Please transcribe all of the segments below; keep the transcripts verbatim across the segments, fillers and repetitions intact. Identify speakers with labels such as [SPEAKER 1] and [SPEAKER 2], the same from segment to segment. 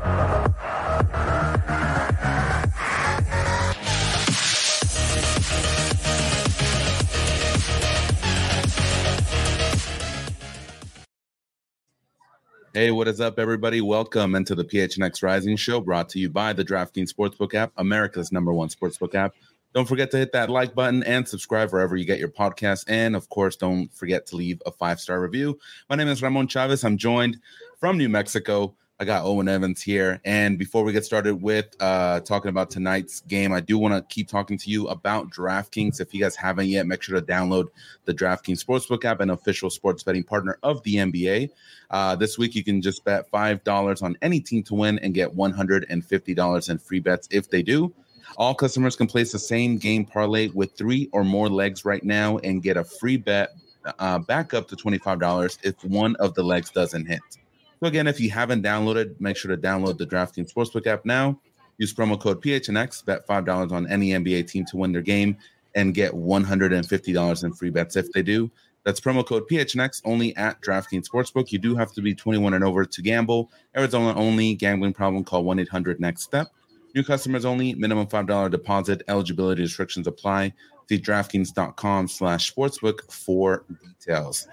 [SPEAKER 1] Hey, what is up, everybody? Welcome into the P H N X Rising Show, brought to you by the DraftKings Sportsbook app, America's number one sportsbook app. Don't forget to hit that like button and subscribe wherever you get your podcasts. And, of course, don't forget to leave a five-star review. My name is Ramon Chavez. I'm joined from New Mexico. I got Owen Evans here. And before we get started with uh, talking about tonight's game, I do want to keep talking to you about DraftKings. If you guys haven't yet, make sure to download the DraftKings Sportsbook app, an official sports betting partner of the N B A. Uh, this week, you can just bet five dollars on any team to win and get one hundred fifty dollars in free bets if they do. All customers can place the same game parlay with three or more legs right now and get a free bet uh, back up to twenty-five dollars if one of the legs doesn't hit. So again, if you haven't downloaded, make sure to download the DraftKings Sportsbook app now. Use promo code P H N X, bet five dollars on any N B A team to win their game, and get one hundred fifty dollars in free bets if they do. That's promo code P H N X only at DraftKings Sportsbook. You do have to be twenty-one and over to gamble. Arizona only. Gambling problem, call one eight hundred next step. New customers only. Minimum five dollars deposit. Eligibility restrictions apply. See DraftKings.com slash sportsbook for details.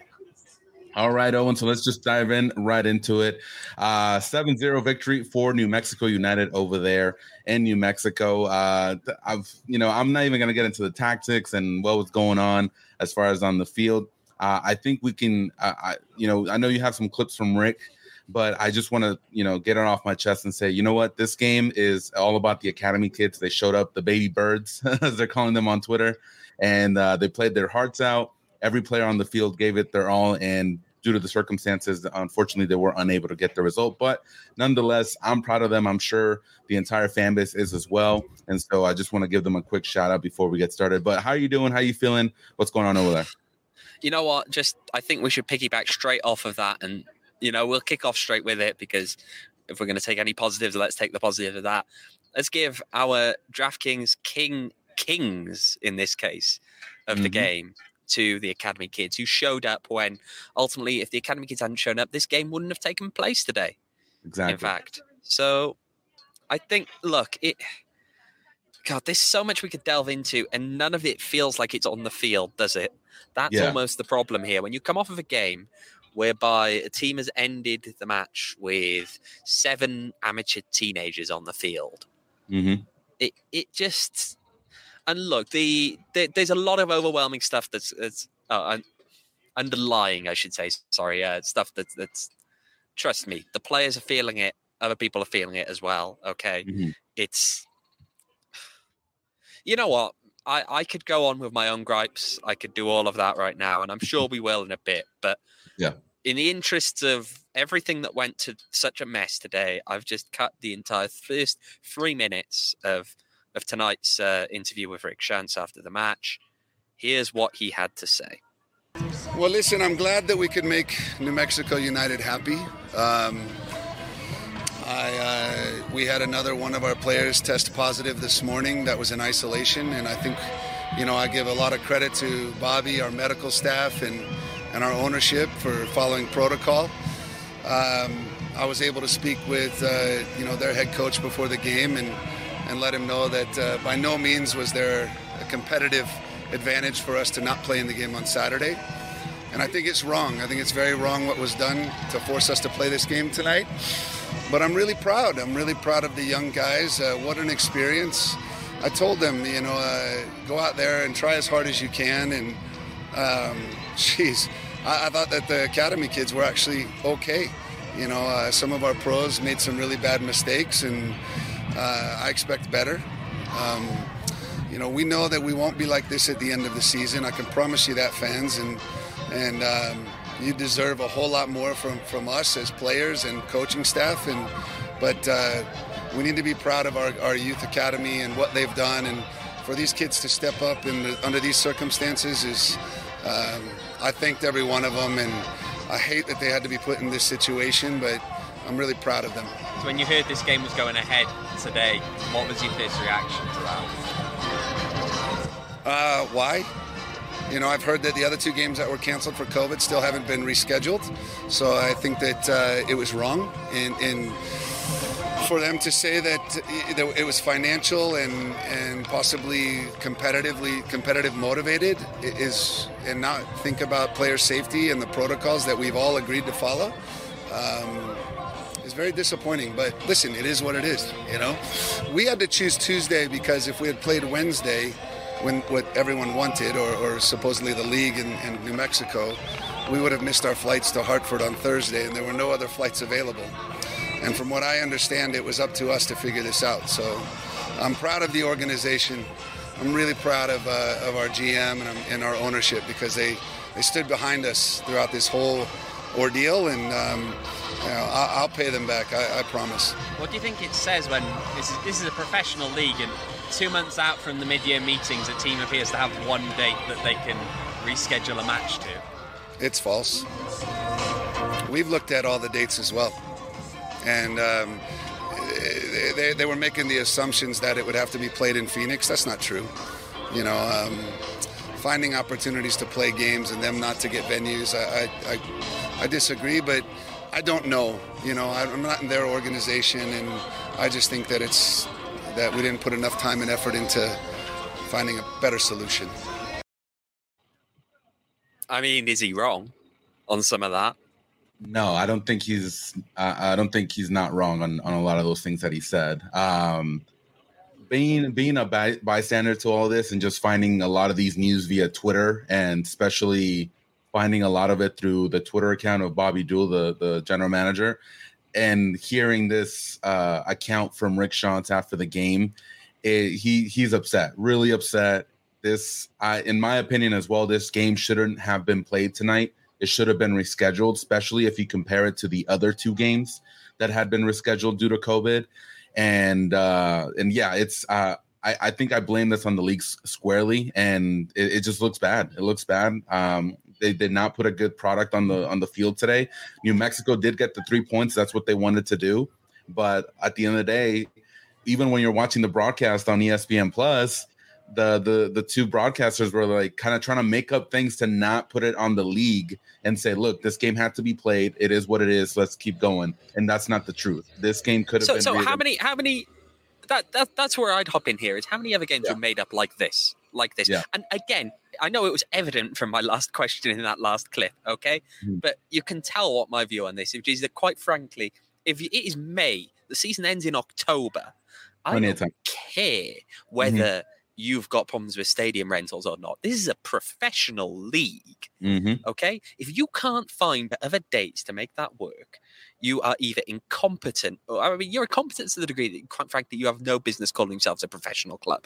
[SPEAKER 1] All right, Owen, so let's just dive in right into it. Uh, seven zero victory for New Mexico United over there in New Mexico. Uh, I've, you know, I'm not even going to get into the tactics and what was going on as far as on the field. Uh, I think we can, uh, I, you know, I know you have some clips from Rick, but I just want to, you know, get it off my chest and say, you know what, this game is all about the academy kids. They showed up, the baby birds, as they're calling them on Twitter, and uh, they played their hearts out. Every player on the field gave it their all, and due to the circumstances, unfortunately, they were unable to get the result. But nonetheless, I'm proud of them. I'm sure the entire fan base is as well. And so I just want to give them a quick shout out before we get started. But how are you doing? How are you feeling? What's going on over there?
[SPEAKER 2] You know what? Just I think we should piggyback straight off of that. And, you know, we'll kick off straight with it, because if we're going to take any positives, let's take the positive of that. Let's give our DraftKings King Kings, in this case, of mm-hmm. the game to the academy kids who showed up when ultimately, if the academy kids hadn't shown up, this game wouldn't have taken place today.
[SPEAKER 1] Exactly.
[SPEAKER 2] In fact, so I think, look, it, God, there's so much we could delve into, and none of it feels like it's on the field, does it? That's yeah. almost the problem here. When you come off of a game whereby a team has ended the match with seven amateur teenagers on the field,
[SPEAKER 1] mm-hmm.
[SPEAKER 2] it it just. And look, the, the there's a lot of overwhelming stuff that's, that's uh, underlying, I should say. Sorry, uh, stuff that's that's. Trust me, the players are feeling it. Other people are feeling it as well. Okay,
[SPEAKER 1] mm-hmm.
[SPEAKER 2] It's. You know what? I I could go on with my own gripes. I could do all of that right now, and I'm sure we will in a bit. But
[SPEAKER 1] yeah,
[SPEAKER 2] in the interests of everything that went to such a mess today, I've just cut the entire first three minutes of. of tonight's uh, interview with Rick Schantz after the match. Here's what he had to say.
[SPEAKER 3] Well, listen, I'm glad that we could make New Mexico United happy. Um, I, uh, we had another one of our players test positive this morning that was in isolation, and I think, you know, I give a lot of credit to Bobby, our medical staff, and, and our ownership for following protocol. Um, I was able to speak with, uh, you know, their head coach before the game, and and let him know that uh, by no means was there a competitive advantage for us to not play in the game on Saturday. And I think it's wrong. I think it's very wrong what was done to force us to play this game tonight. But I'm really proud. I'm really proud of the young guys. Uh, what an experience. I told them, you know, uh, go out there and try as hard as you can. And, um, geez, I, I thought that the academy kids were actually okay. You know, uh, some of our pros made some really bad mistakes, and Uh, I expect better. Um, you know, we know that we won't be like this at the end of the season. I can promise you that, fans. And and um, you deserve a whole lot more from, from us as players and coaching staff. And but uh, we need to be proud of our, our youth academy and what they've done. And for these kids to step up in the, under these circumstances is, um, I thanked every one of them. And I hate that they had to be put in this situation, but I'm really proud of them.
[SPEAKER 4] So when you heard this game was going ahead today, what was your first reaction to that?
[SPEAKER 3] Uh, why? You know, I've heard that the other two games that were canceled for COVID still haven't been rescheduled. So I think that uh, it was wrong. And, and for them to say that it was financial and, and possibly competitively competitive motivated is, and not think about player safety and the protocols that we've all agreed to follow, um, is very disappointing. But listen, it is what it is. You know, we had to choose Tuesday because if we had played Wednesday, when what everyone wanted, or, or supposedly the league in, in New Mexico, we would have missed our flights to Hartford on Thursday, and there were no other flights available. And from what I understand, it was up to us to figure this out. So I'm proud of the organization. I'm really proud of uh, of our G M and, and our ownership, because they, they stood behind us throughout this whole ordeal, and um, you know, I'll, I'll pay them back, I, I promise.
[SPEAKER 4] What do you think it says when this is, this is a professional league, and two months out from the mid-year meetings, a team appears to have one date that they can reschedule a match to?
[SPEAKER 3] It's false. We've looked at all the dates as well. And um, they, they were making the assumptions that it would have to be played in Phoenix. That's not true. You know, um, finding opportunities to play games and them not to get venues, I, I, I disagree, but I don't know. You know, I'm not in their organization, and I just think that it's that we didn't put enough time and effort into finding a better solution.
[SPEAKER 2] I mean, is he wrong on some of that?
[SPEAKER 1] No, I don't think he's. Uh, I don't think he's not wrong on, on a lot of those things that he said. Um, being being a by, bystander to all this, and just finding a lot of these news via Twitter, and especially finding a lot of it through the Twitter account of Bobby Dool, the the general manager, and hearing this uh, account from Rick Schantz after the game, it, he he's upset, really upset. This, I, in my opinion as well, this game shouldn't have been played tonight. It should have been rescheduled, especially if you compare it to the other two games that had been rescheduled due to COVID. And uh, and yeah, it's uh, I, I think I blame this on the league squarely, and it, it just looks bad. It looks bad. Um, they did not put a good product on the on the field today. New Mexico did get the three points. That's what they wanted to do. But at the end of the day, even when you're watching the broadcast on E S P N Plus, the the the two broadcasters were like kind of trying to make up things to not put it on the league and say, look, this game had to be played. It is what it is. Let's keep going. And that's not the truth. This game could have
[SPEAKER 2] so,
[SPEAKER 1] been.
[SPEAKER 2] So
[SPEAKER 1] rated.
[SPEAKER 2] how many, how many, that, that that's where I'd hop in here is how many other games
[SPEAKER 1] Yeah.
[SPEAKER 2] were made up like this, like this.
[SPEAKER 1] Yeah.
[SPEAKER 2] And again, I know it was evident from my last question in that last clip. Okay.
[SPEAKER 1] Mm-hmm.
[SPEAKER 2] But you can tell what my view on this, which is that quite frankly, if it is May, the season ends in October. I
[SPEAKER 1] Plenty
[SPEAKER 2] don't
[SPEAKER 1] of time.
[SPEAKER 2] care whether mm-hmm. you've got problems with stadium rentals or not. This is a professional league,
[SPEAKER 1] Mm-hmm.
[SPEAKER 2] okay? If you can't find other dates to make that work, you are either incompetent, or I mean, you're incompetent to the degree that, quite frankly, you have no business calling yourselves a professional club.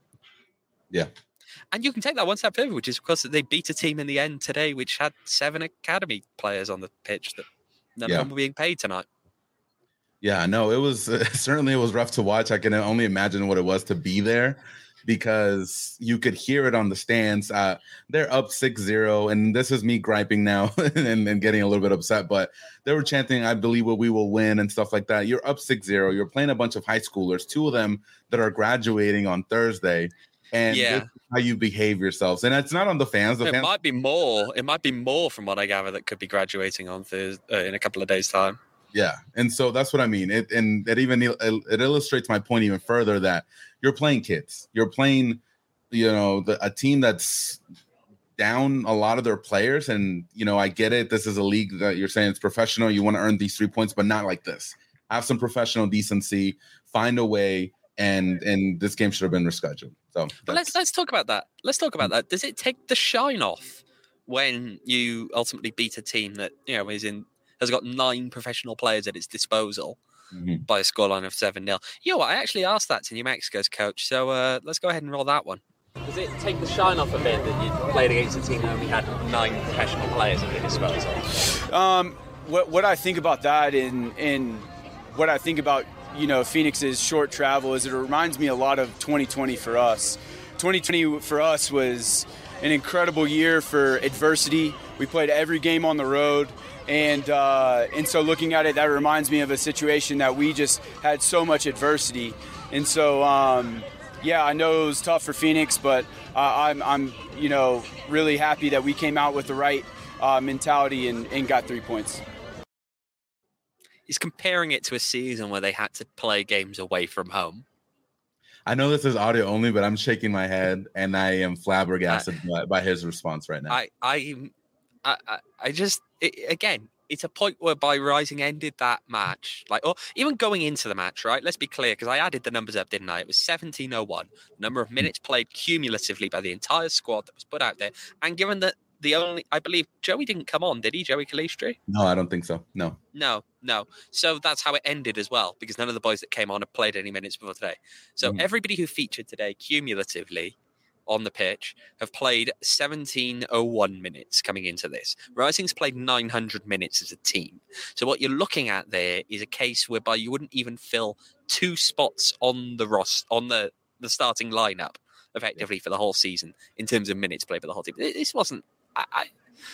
[SPEAKER 1] Yeah.
[SPEAKER 2] And you can take that one step further, which is, of course, that they beat a team in the end today, which had seven academy players on the pitch that none
[SPEAKER 1] Yeah.
[SPEAKER 2] of them were being paid tonight.
[SPEAKER 1] Yeah, no, it was uh, certainly it was rough to watch. I can only imagine what it was to be there, because you could hear it on the stands. Uh, they're up six zero, and this is me griping now and, and getting a little bit upset, but they were chanting, I believe we will win and stuff like that. You're up six zero. You're playing a bunch of high schoolers, two of them that are graduating on Thursday, and
[SPEAKER 2] Yeah.
[SPEAKER 1] this is how you behave yourselves. And it's not on the fans. The
[SPEAKER 2] It
[SPEAKER 1] fans
[SPEAKER 2] might be more. It might be more, from what I gather, that could be graduating on Thursday, uh, in a couple of days' time.
[SPEAKER 1] Yeah, and so that's what I mean. It and it even it illustrates my point even further that you're playing kids. You're playing, you know, the, a team that's down a lot of their players, and you know, I get it. This is a league that you're saying it's professional. You want to earn these three points, but not like this. Have some professional decency. Find a way, and and this game should have been rescheduled. So
[SPEAKER 2] But let's let's talk about that. Let's talk about that. Does it take the shine off when you ultimately beat a team that, you know, is in has got nine professional players at its disposal
[SPEAKER 1] mm-hmm.
[SPEAKER 2] by a scoreline of seven nil? You know what? I actually asked that to New Mexico's coach, so uh, let's go ahead and roll that one.
[SPEAKER 4] Does it take the shine off a bit that you played against a team that only had nine professional players at their disposal?
[SPEAKER 5] Um, what what I think about that, and and what I think about, you know, Phoenix's short travel is it reminds me a lot of twenty twenty for us. twenty twenty for us was an incredible year for adversity. We played every game on the road. And uh, and so looking at it, that reminds me of a situation that we just had so much adversity. And so, um, yeah, I know it was tough for Phoenix, but uh, I'm, I'm, you know, really happy that we came out with the right uh, mentality and, and got three points.
[SPEAKER 2] he's comparing it to a season where they had to play games away from home.
[SPEAKER 1] I know this is audio only, but I'm shaking my head and I am flabbergasted I, by, by his response right now.
[SPEAKER 2] I, I, I, I just, it, again, it's a point whereby Rising ended that match, like, or even going into the match, right? Let's be clear, because I added the numbers up, didn't I? It was seventeen oh one, number of minutes played cumulatively by the entire squad that was put out there. And given that the only, I believe, Joey didn't come on, did he, Joey Calistri?
[SPEAKER 1] No, I don't think so. No.
[SPEAKER 2] No, no. So that's how it ended as well, because none of the boys that came on had played any minutes before today. So mm-hmm. everybody who featured today cumulatively on the pitch have played seventeen oh one minutes coming into this. Rising's played nine hundred minutes as a team. So what you're looking at there is a case whereby you wouldn't even fill two spots on the Ross on the, the starting lineup effectively yeah. for the whole season in terms of minutes played by the whole team. This wasn't. I,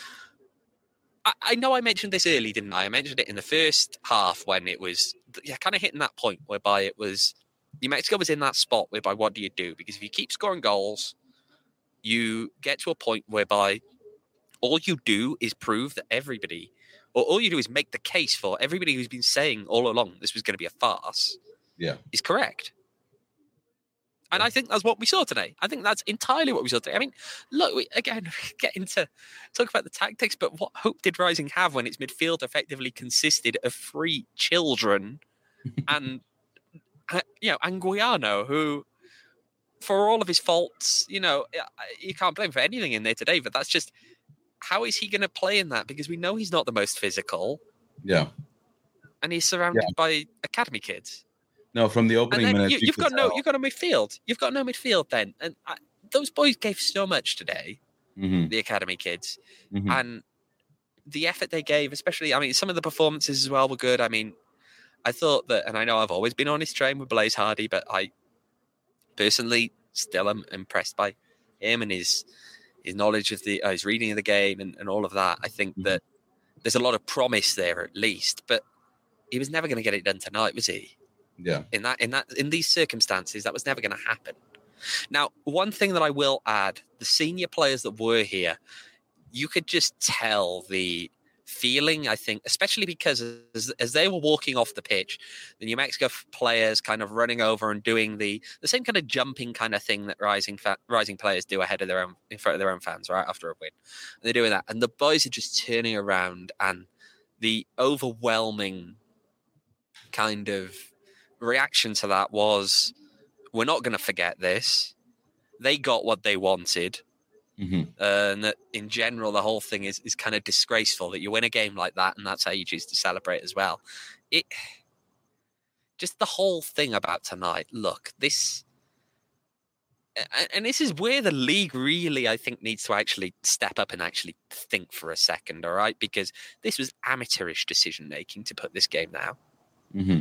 [SPEAKER 2] I I know I mentioned this early, didn't I? I mentioned it in the first half when it was yeah, kind of hitting that point whereby it was New Mexico was in that spot whereby what do you do? Because if you keep scoring goals, you get to a point whereby all you do is prove that everybody, or all you do is make the case for everybody who's been saying all along this was going to be a farce,
[SPEAKER 1] yeah,
[SPEAKER 2] is correct. And I think that's what we saw today. I think that's entirely what we saw today. I mean, look, we, again, get into talk about the tactics, but what hope did Rising have when its midfield effectively consisted of three children and, you know, Anguiano, who, for all of his faults, you know, you can't blame him for anything in there today, but that's just, how is he going to play in that? Because we know he's not the most physical.
[SPEAKER 1] Yeah.
[SPEAKER 2] And he's surrounded yeah. by academy kids.
[SPEAKER 1] No, from the opening minutes,
[SPEAKER 2] you, you've you got no, tell. you've got no midfield. You've got no midfield then, and I, those boys gave so much today.
[SPEAKER 1] Mm-hmm.
[SPEAKER 2] The academy kids,
[SPEAKER 1] mm-hmm.
[SPEAKER 2] and the effort they gave, especially, I mean, some of the performances as well were good. I mean, I thought that, and I know I've always been on his train with Blaze Hardy, but I personally still am impressed by him and his his knowledge of the, uh, his reading of the game, and, and all of that. I think mm-hmm. that there's a lot of promise there, at least, but he was never going to get it done tonight, was he?
[SPEAKER 1] Yeah.
[SPEAKER 2] In that, in that, in these circumstances, that was never going to happen. Now, one thing that I will add: the senior players that were here, you could just tell the feeling. I think, especially because as, as they were walking off the pitch, the New Mexico players kind of running over and doing the the same kind of jumping kind of thing that rising fa- rising players do ahead of their own, in front of their own fans, right after a win. And they're doing that, and the boys are just turning around, and the overwhelming kind of reaction to that was, we're not going to forget this. They got what they wanted.
[SPEAKER 1] Mm-hmm.
[SPEAKER 2] Uh, and that in general, the whole thing is, is kind of disgraceful that you win a game like that and that's how you choose to celebrate as well. It just the whole thing about tonight. Look, this, and this is where the league really, I think, needs to actually step up and actually think for a second, all right? Because this was amateurish decision making to put this game now.
[SPEAKER 1] Mm-hmm.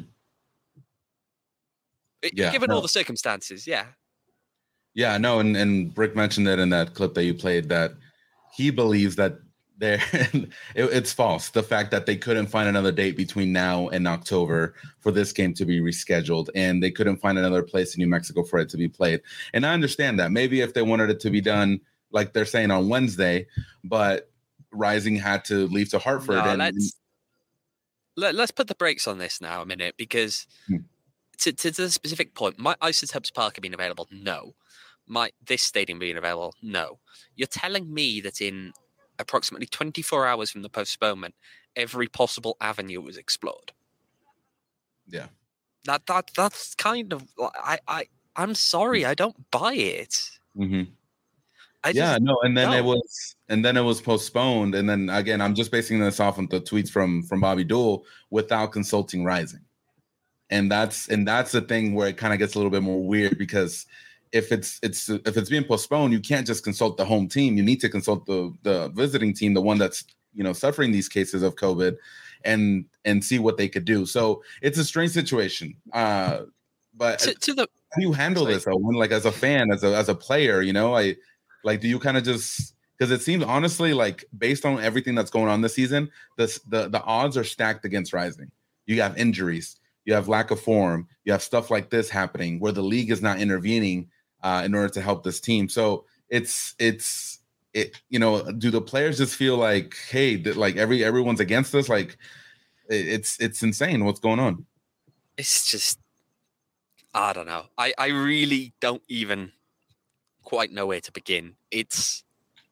[SPEAKER 2] Yeah, given no. all the circumstances, yeah.
[SPEAKER 1] Yeah, no, and, and Brick mentioned it in that clip that you played, that he believes that they're, it, it's false. The fact that they couldn't find another date between now and October for this game to be rescheduled, and they couldn't find another place in New Mexico for it to be played. And I understand that. Maybe if they wanted it to be done, like they're saying, on Wednesday, but Rising had to leave to Hartford.
[SPEAKER 2] No,
[SPEAKER 1] and
[SPEAKER 2] let's, let, let's put the brakes on this now a minute, because... Hmm. To, to the specific point, might Isotopes Park have been available? No. Might this stadium being available? No. You're telling me that in approximately twenty-four hours from the postponement, every possible avenue was explored?
[SPEAKER 1] Yeah.
[SPEAKER 2] That that that's kind of I I I'm sorry, I don't buy it.
[SPEAKER 1] Mm-hmm.
[SPEAKER 2] I
[SPEAKER 1] yeah, no, and then
[SPEAKER 2] don't.
[SPEAKER 1] it was and then it was postponed, and then again, I'm just basing this off of the tweets from from Bobby Dool without consulting Rising. And that's and that's the thing where it kind of gets a little bit more weird, because if it's it's if it's being postponed, you can't just consult the home team. You need to consult the the visiting team, the one that's, you know, suffering these cases of COVID, and and see what they could do. So it's a strange situation. Uh, but
[SPEAKER 2] to, to the,
[SPEAKER 1] how do you handle sorry. this? Owen? Like, as a fan, as a as a player, you know, I like do you kind of just, because it seems honestly like, based on everything that's going on this season, this the the odds are stacked against Rising. You have injuries. You have lack of form. You have stuff like this happening where the league is not intervening uh, in order to help this team. So it's it's it. You know, do the players just feel like, hey, that like every everyone's against us? Like it's it's insane what's going on.
[SPEAKER 2] It's just, I don't know. I, I really don't even quite know where to begin. It's,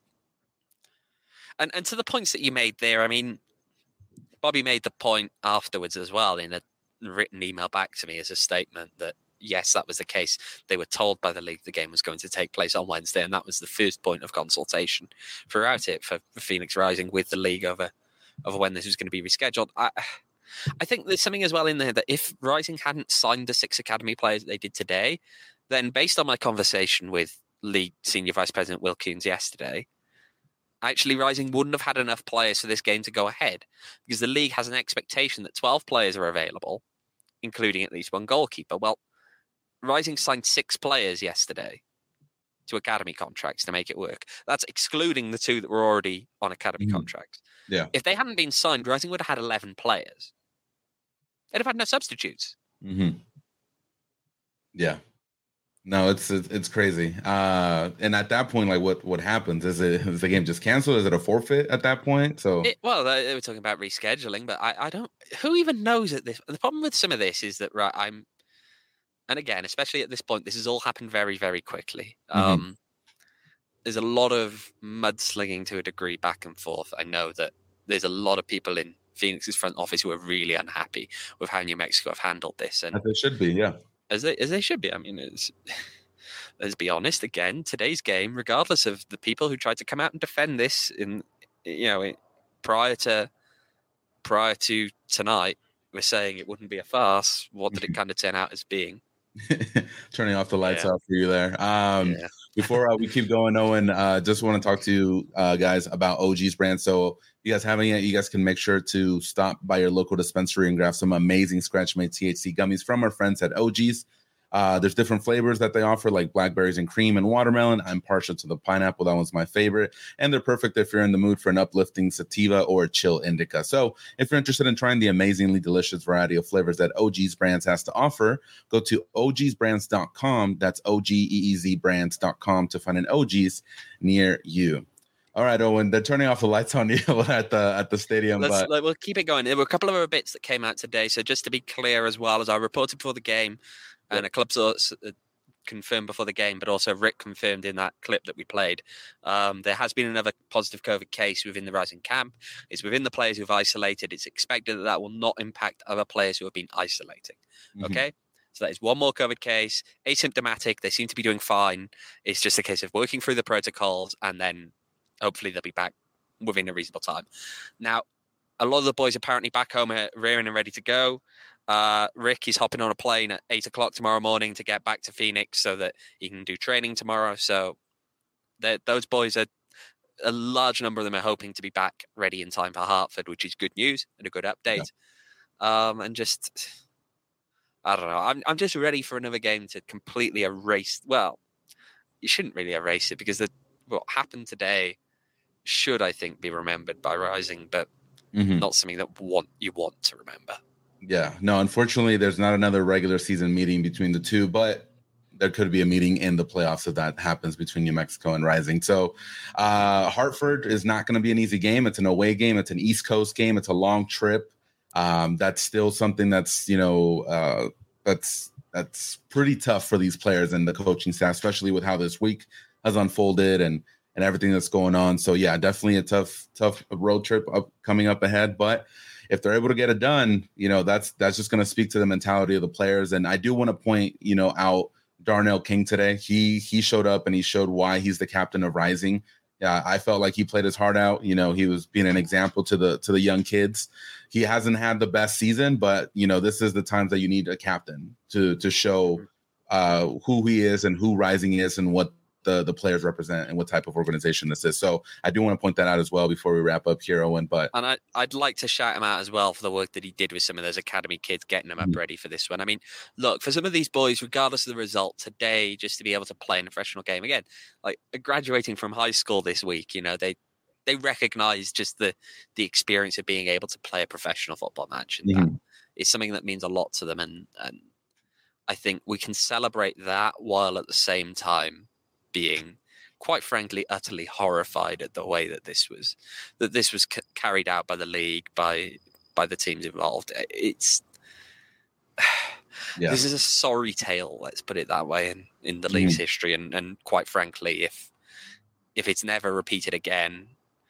[SPEAKER 2] and, and to the points that you made there, I mean, Bobby made the point afterwards as well in a written email back to me as a statement that, yes, that was the case. They were told by the league the game was going to take place on Wednesday, and that was the first point of consultation throughout it for, for Phoenix Rising with the league over, over when this was going to be rescheduled. I, I think there's something as well in there that if Rising hadn't signed the six academy players that they did today, then based on my conversation with League Senior Vice President Will Coons yesterday, actually Rising wouldn't have had enough players for this game to go ahead because the league has an expectation that twelve players are available, including at least one goalkeeper. Well, Rising signed six players yesterday to academy contracts to make it work. That's excluding the two that were already on academy mm. contracts.
[SPEAKER 1] Yeah.
[SPEAKER 2] If they hadn't been signed, Rising would have had eleven players. They'd have had no substitutes.
[SPEAKER 1] Mm-hmm. Yeah. No, it's it's crazy. Uh, and at that point, like, what what happens? Is it is the game just canceled? Is it a forfeit at that point? So,
[SPEAKER 2] it, well, they were talking about rescheduling, but I, I don't. Who even knows at this? The problem with some of this is that right, I'm, and again, especially at this point, this has all happened very, very quickly. Mm-hmm. Um, there's a lot of mudslinging to a degree back and forth. I know that there's a lot of people in Phoenix's front office who are really unhappy with how New Mexico have handled this, and
[SPEAKER 1] as they should be, yeah.
[SPEAKER 2] As they as they should be. I mean, it's, let's be honest. Again, today's game, regardless of the people who tried to come out and defend this, in you know, prior to prior to tonight, we're saying it wouldn't be a farce. What did it kind of turn out as being?
[SPEAKER 1] Turning off the lights
[SPEAKER 2] yeah.
[SPEAKER 1] off for you there. Um, yeah. Before uh, we keep going, Owen, uh, just want to talk to you uh, guys about O G's brand. So, if you guys haven't yet, you guys can make sure to stop by your local dispensary and grab some amazing scratch-made T H C gummies from our friends at O G's. Uh, there's different flavors that they offer, like blackberries and cream and watermelon. I'm partial to the pineapple. That one's my favorite. And they're perfect if you're in the mood for an uplifting sativa or a chill indica. So if you're interested in trying the amazingly delicious variety of flavors that O G's Brands has to offer, go to O Gs brands dot com. That's O G E E Z brands dot com to find an O G's near you. All right, Owen, they're turning off the lights on you at the at the stadium.
[SPEAKER 2] Let's,
[SPEAKER 1] but
[SPEAKER 2] let, we'll keep it going. There were a couple of other bits that came out today. So just to be clear as well, as I reported before the game, and a club source confirmed before the game, but also Rick confirmed in that clip that we played, um, there has been another positive COVID case within the Rising camp. It's within the players who've isolated. It's expected that that will not impact other players who have been isolating. Mm-hmm. Okay? So that is one more COVID case, asymptomatic. They seem to be doing fine. It's just a case of working through the protocols, and then hopefully they'll be back within a reasonable time. Now, a lot of the boys apparently back home are rearing and ready to go. Uh, Rick is hopping on a plane at eight o'clock tomorrow morning to get back to Phoenix so that he can do training tomorrow. So those boys are, a large number of them are hoping to be back ready in time for Hartford, which is good news and a good update. Yeah. Um, and just, I don't know. I'm I'm just ready for another game to completely erase. Well, you shouldn't really erase it because the, what happened today should, I think, be remembered by Rising, but mm-hmm. not something that want you want to remember.
[SPEAKER 1] Yeah, no, unfortunately, there's not another regular season meeting between the two, but there could be a meeting in the playoffs if that happens between New Mexico and Rising. So uh, Hartford is not going to be an easy game. It's an away game. It's an East Coast game. It's a long trip. Um, that's still something that's, you know, uh, that's that's pretty tough for these players and the coaching staff, especially with how this week has unfolded and and everything that's going on. So, yeah, definitely a tough, tough road trip up, coming up ahead. But if they're able to get it done, you know, that's that's just going to speak to the mentality of the players. And I do want to point, you know, out Darnell King today. He he showed up and he showed why he's the captain of Rising. Yeah, I felt like he played his heart out. You know, he was being an example to the to the young kids. He hasn't had the best season, but, you know, this is the times that you need a captain to to show uh, who he is and who Rising is and what the the players represent and what type of organization this is. So I do want to point that out as well before we wrap up here, Owen. But
[SPEAKER 2] and I, I'd like to shout him out as well for the work that he did with some of those academy kids, getting them up mm-hmm. ready for this one. I mean, look, for some of these boys, regardless of the result today, just to be able to play in a professional game again, like graduating from high school this week, you know, they they recognize just the the experience of being able to play a professional football match, and mm-hmm. that is something that means a lot to them. And and I think we can celebrate that while at the same time being, quite frankly, utterly horrified at the way that this was that this was c- carried out by the league, by by the teams involved. It's yeah. This is a sorry tale, let's put it that way, in, in the mm. league's history. And, and quite frankly, if if it's never repeated again,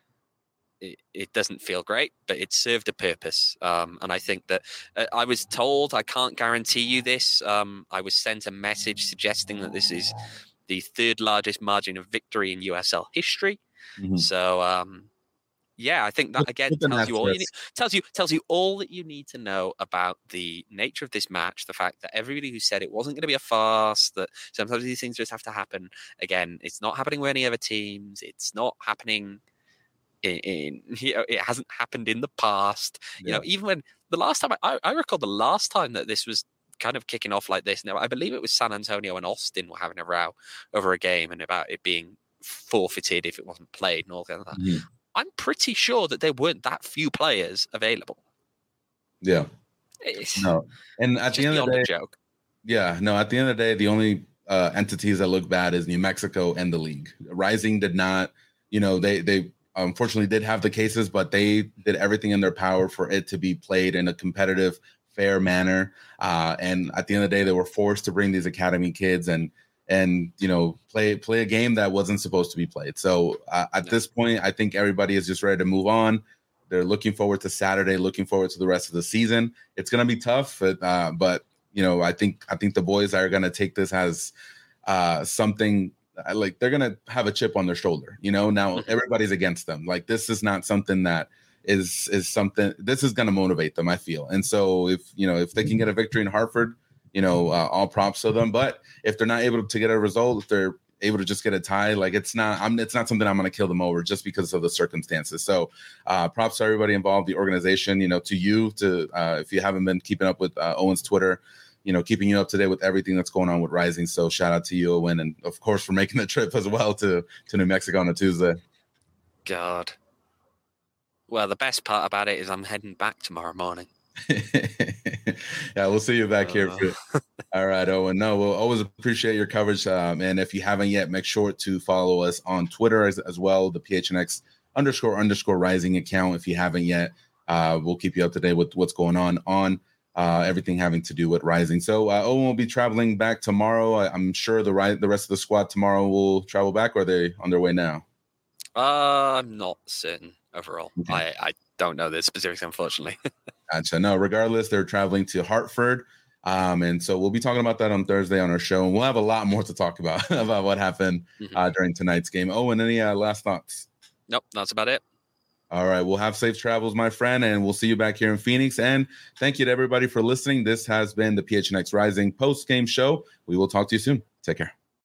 [SPEAKER 2] it, it doesn't feel great, but it served a purpose. Um, and I think that uh, I was told, I can't guarantee you this, um, I was sent a message suggesting that this is the third largest margin of victory in U S L history. Mm-hmm. So, um, yeah, I think that again tells you all you need, tells you tells you all that you need to know about the nature of this match. The fact that everybody who said it wasn't going to be a farce, that sometimes these things just have to happen. Again, it's not happening with any other teams. It's not happening in, in you know, it hasn't happened in the past. Yeah. You know, even when the last time I, I recall the last time that this was kind of kicking off like this. Now, I believe it was San Antonio and Austin were having a row over a game and about it being forfeited if it wasn't played and all that. Mm-hmm. I'm pretty sure that there weren't that few players available.
[SPEAKER 1] Yeah.
[SPEAKER 2] It's
[SPEAKER 1] no. And at the end of the day,
[SPEAKER 2] joke.
[SPEAKER 1] Yeah, no, at the end of the day, the only uh, entities that look bad is New Mexico and the league. Rising did not, you know, they, they unfortunately did have the cases, but they did everything in their power for it to be played in a competitive, fair manner. Uh, and at the end of the day, they were forced to bring these academy kids and, and, you know, play play a game that wasn't supposed to be played. So uh, at this point, I think everybody is just ready to move on. They're looking forward to Saturday, looking forward to the rest of the season. It's going to be tough, but, uh, but you know, I think I think the boys are going to take this as uh, something like they're going to have a chip on their shoulder. You know, now everybody's against them. Like, this is not something that is is something this is going to motivate them, I feel. And so if, you know, if they can get a victory in Hartford, you know, uh, all props to them. But if they're not able to get a result, if they're able to just get a tie, like it's not, I'm, it's not something I'm going to kill them over just because of the circumstances. So uh, props to everybody involved, the organization, you know, to you, to uh, if you haven't been keeping up with uh, Owen's Twitter, you know, keeping you up to date with everything that's going on with Rising. So shout out to you, Owen, and of course for making the trip as well to, to New Mexico on a Tuesday.
[SPEAKER 2] God. Well, the best part about it is I'm heading back tomorrow morning.
[SPEAKER 1] Yeah, we'll see you back here. For, all right, Owen. No, we'll always appreciate your coverage. Um, and if you haven't yet, make sure to follow us on Twitter as, as well, the P H N X underscore underscore Rising account. If you haven't yet, uh, we'll keep you up to date with what's going on on uh, everything having to do with Rising. So uh, Owen will be traveling back tomorrow. I, I'm sure the ri- the rest of the squad tomorrow will travel back, or are they on their way now?
[SPEAKER 2] Uh, I'm not certain overall. Okay. I, I don't know the specifics, unfortunately.
[SPEAKER 1] Gotcha. No, regardless, they're traveling to Hartford. Um, and so we'll be talking about that on Thursday on our show. And we'll have a lot more to talk about, about what happened mm-hmm. uh, during tonight's game. Oh, and any uh, last thoughts?
[SPEAKER 2] Nope, that's about it.
[SPEAKER 1] All right. We'll have safe travels, my friend, and we'll see you back here in Phoenix. And thank you to everybody for listening. This has been the P H N X Rising post-game show. We will talk to you soon. Take care.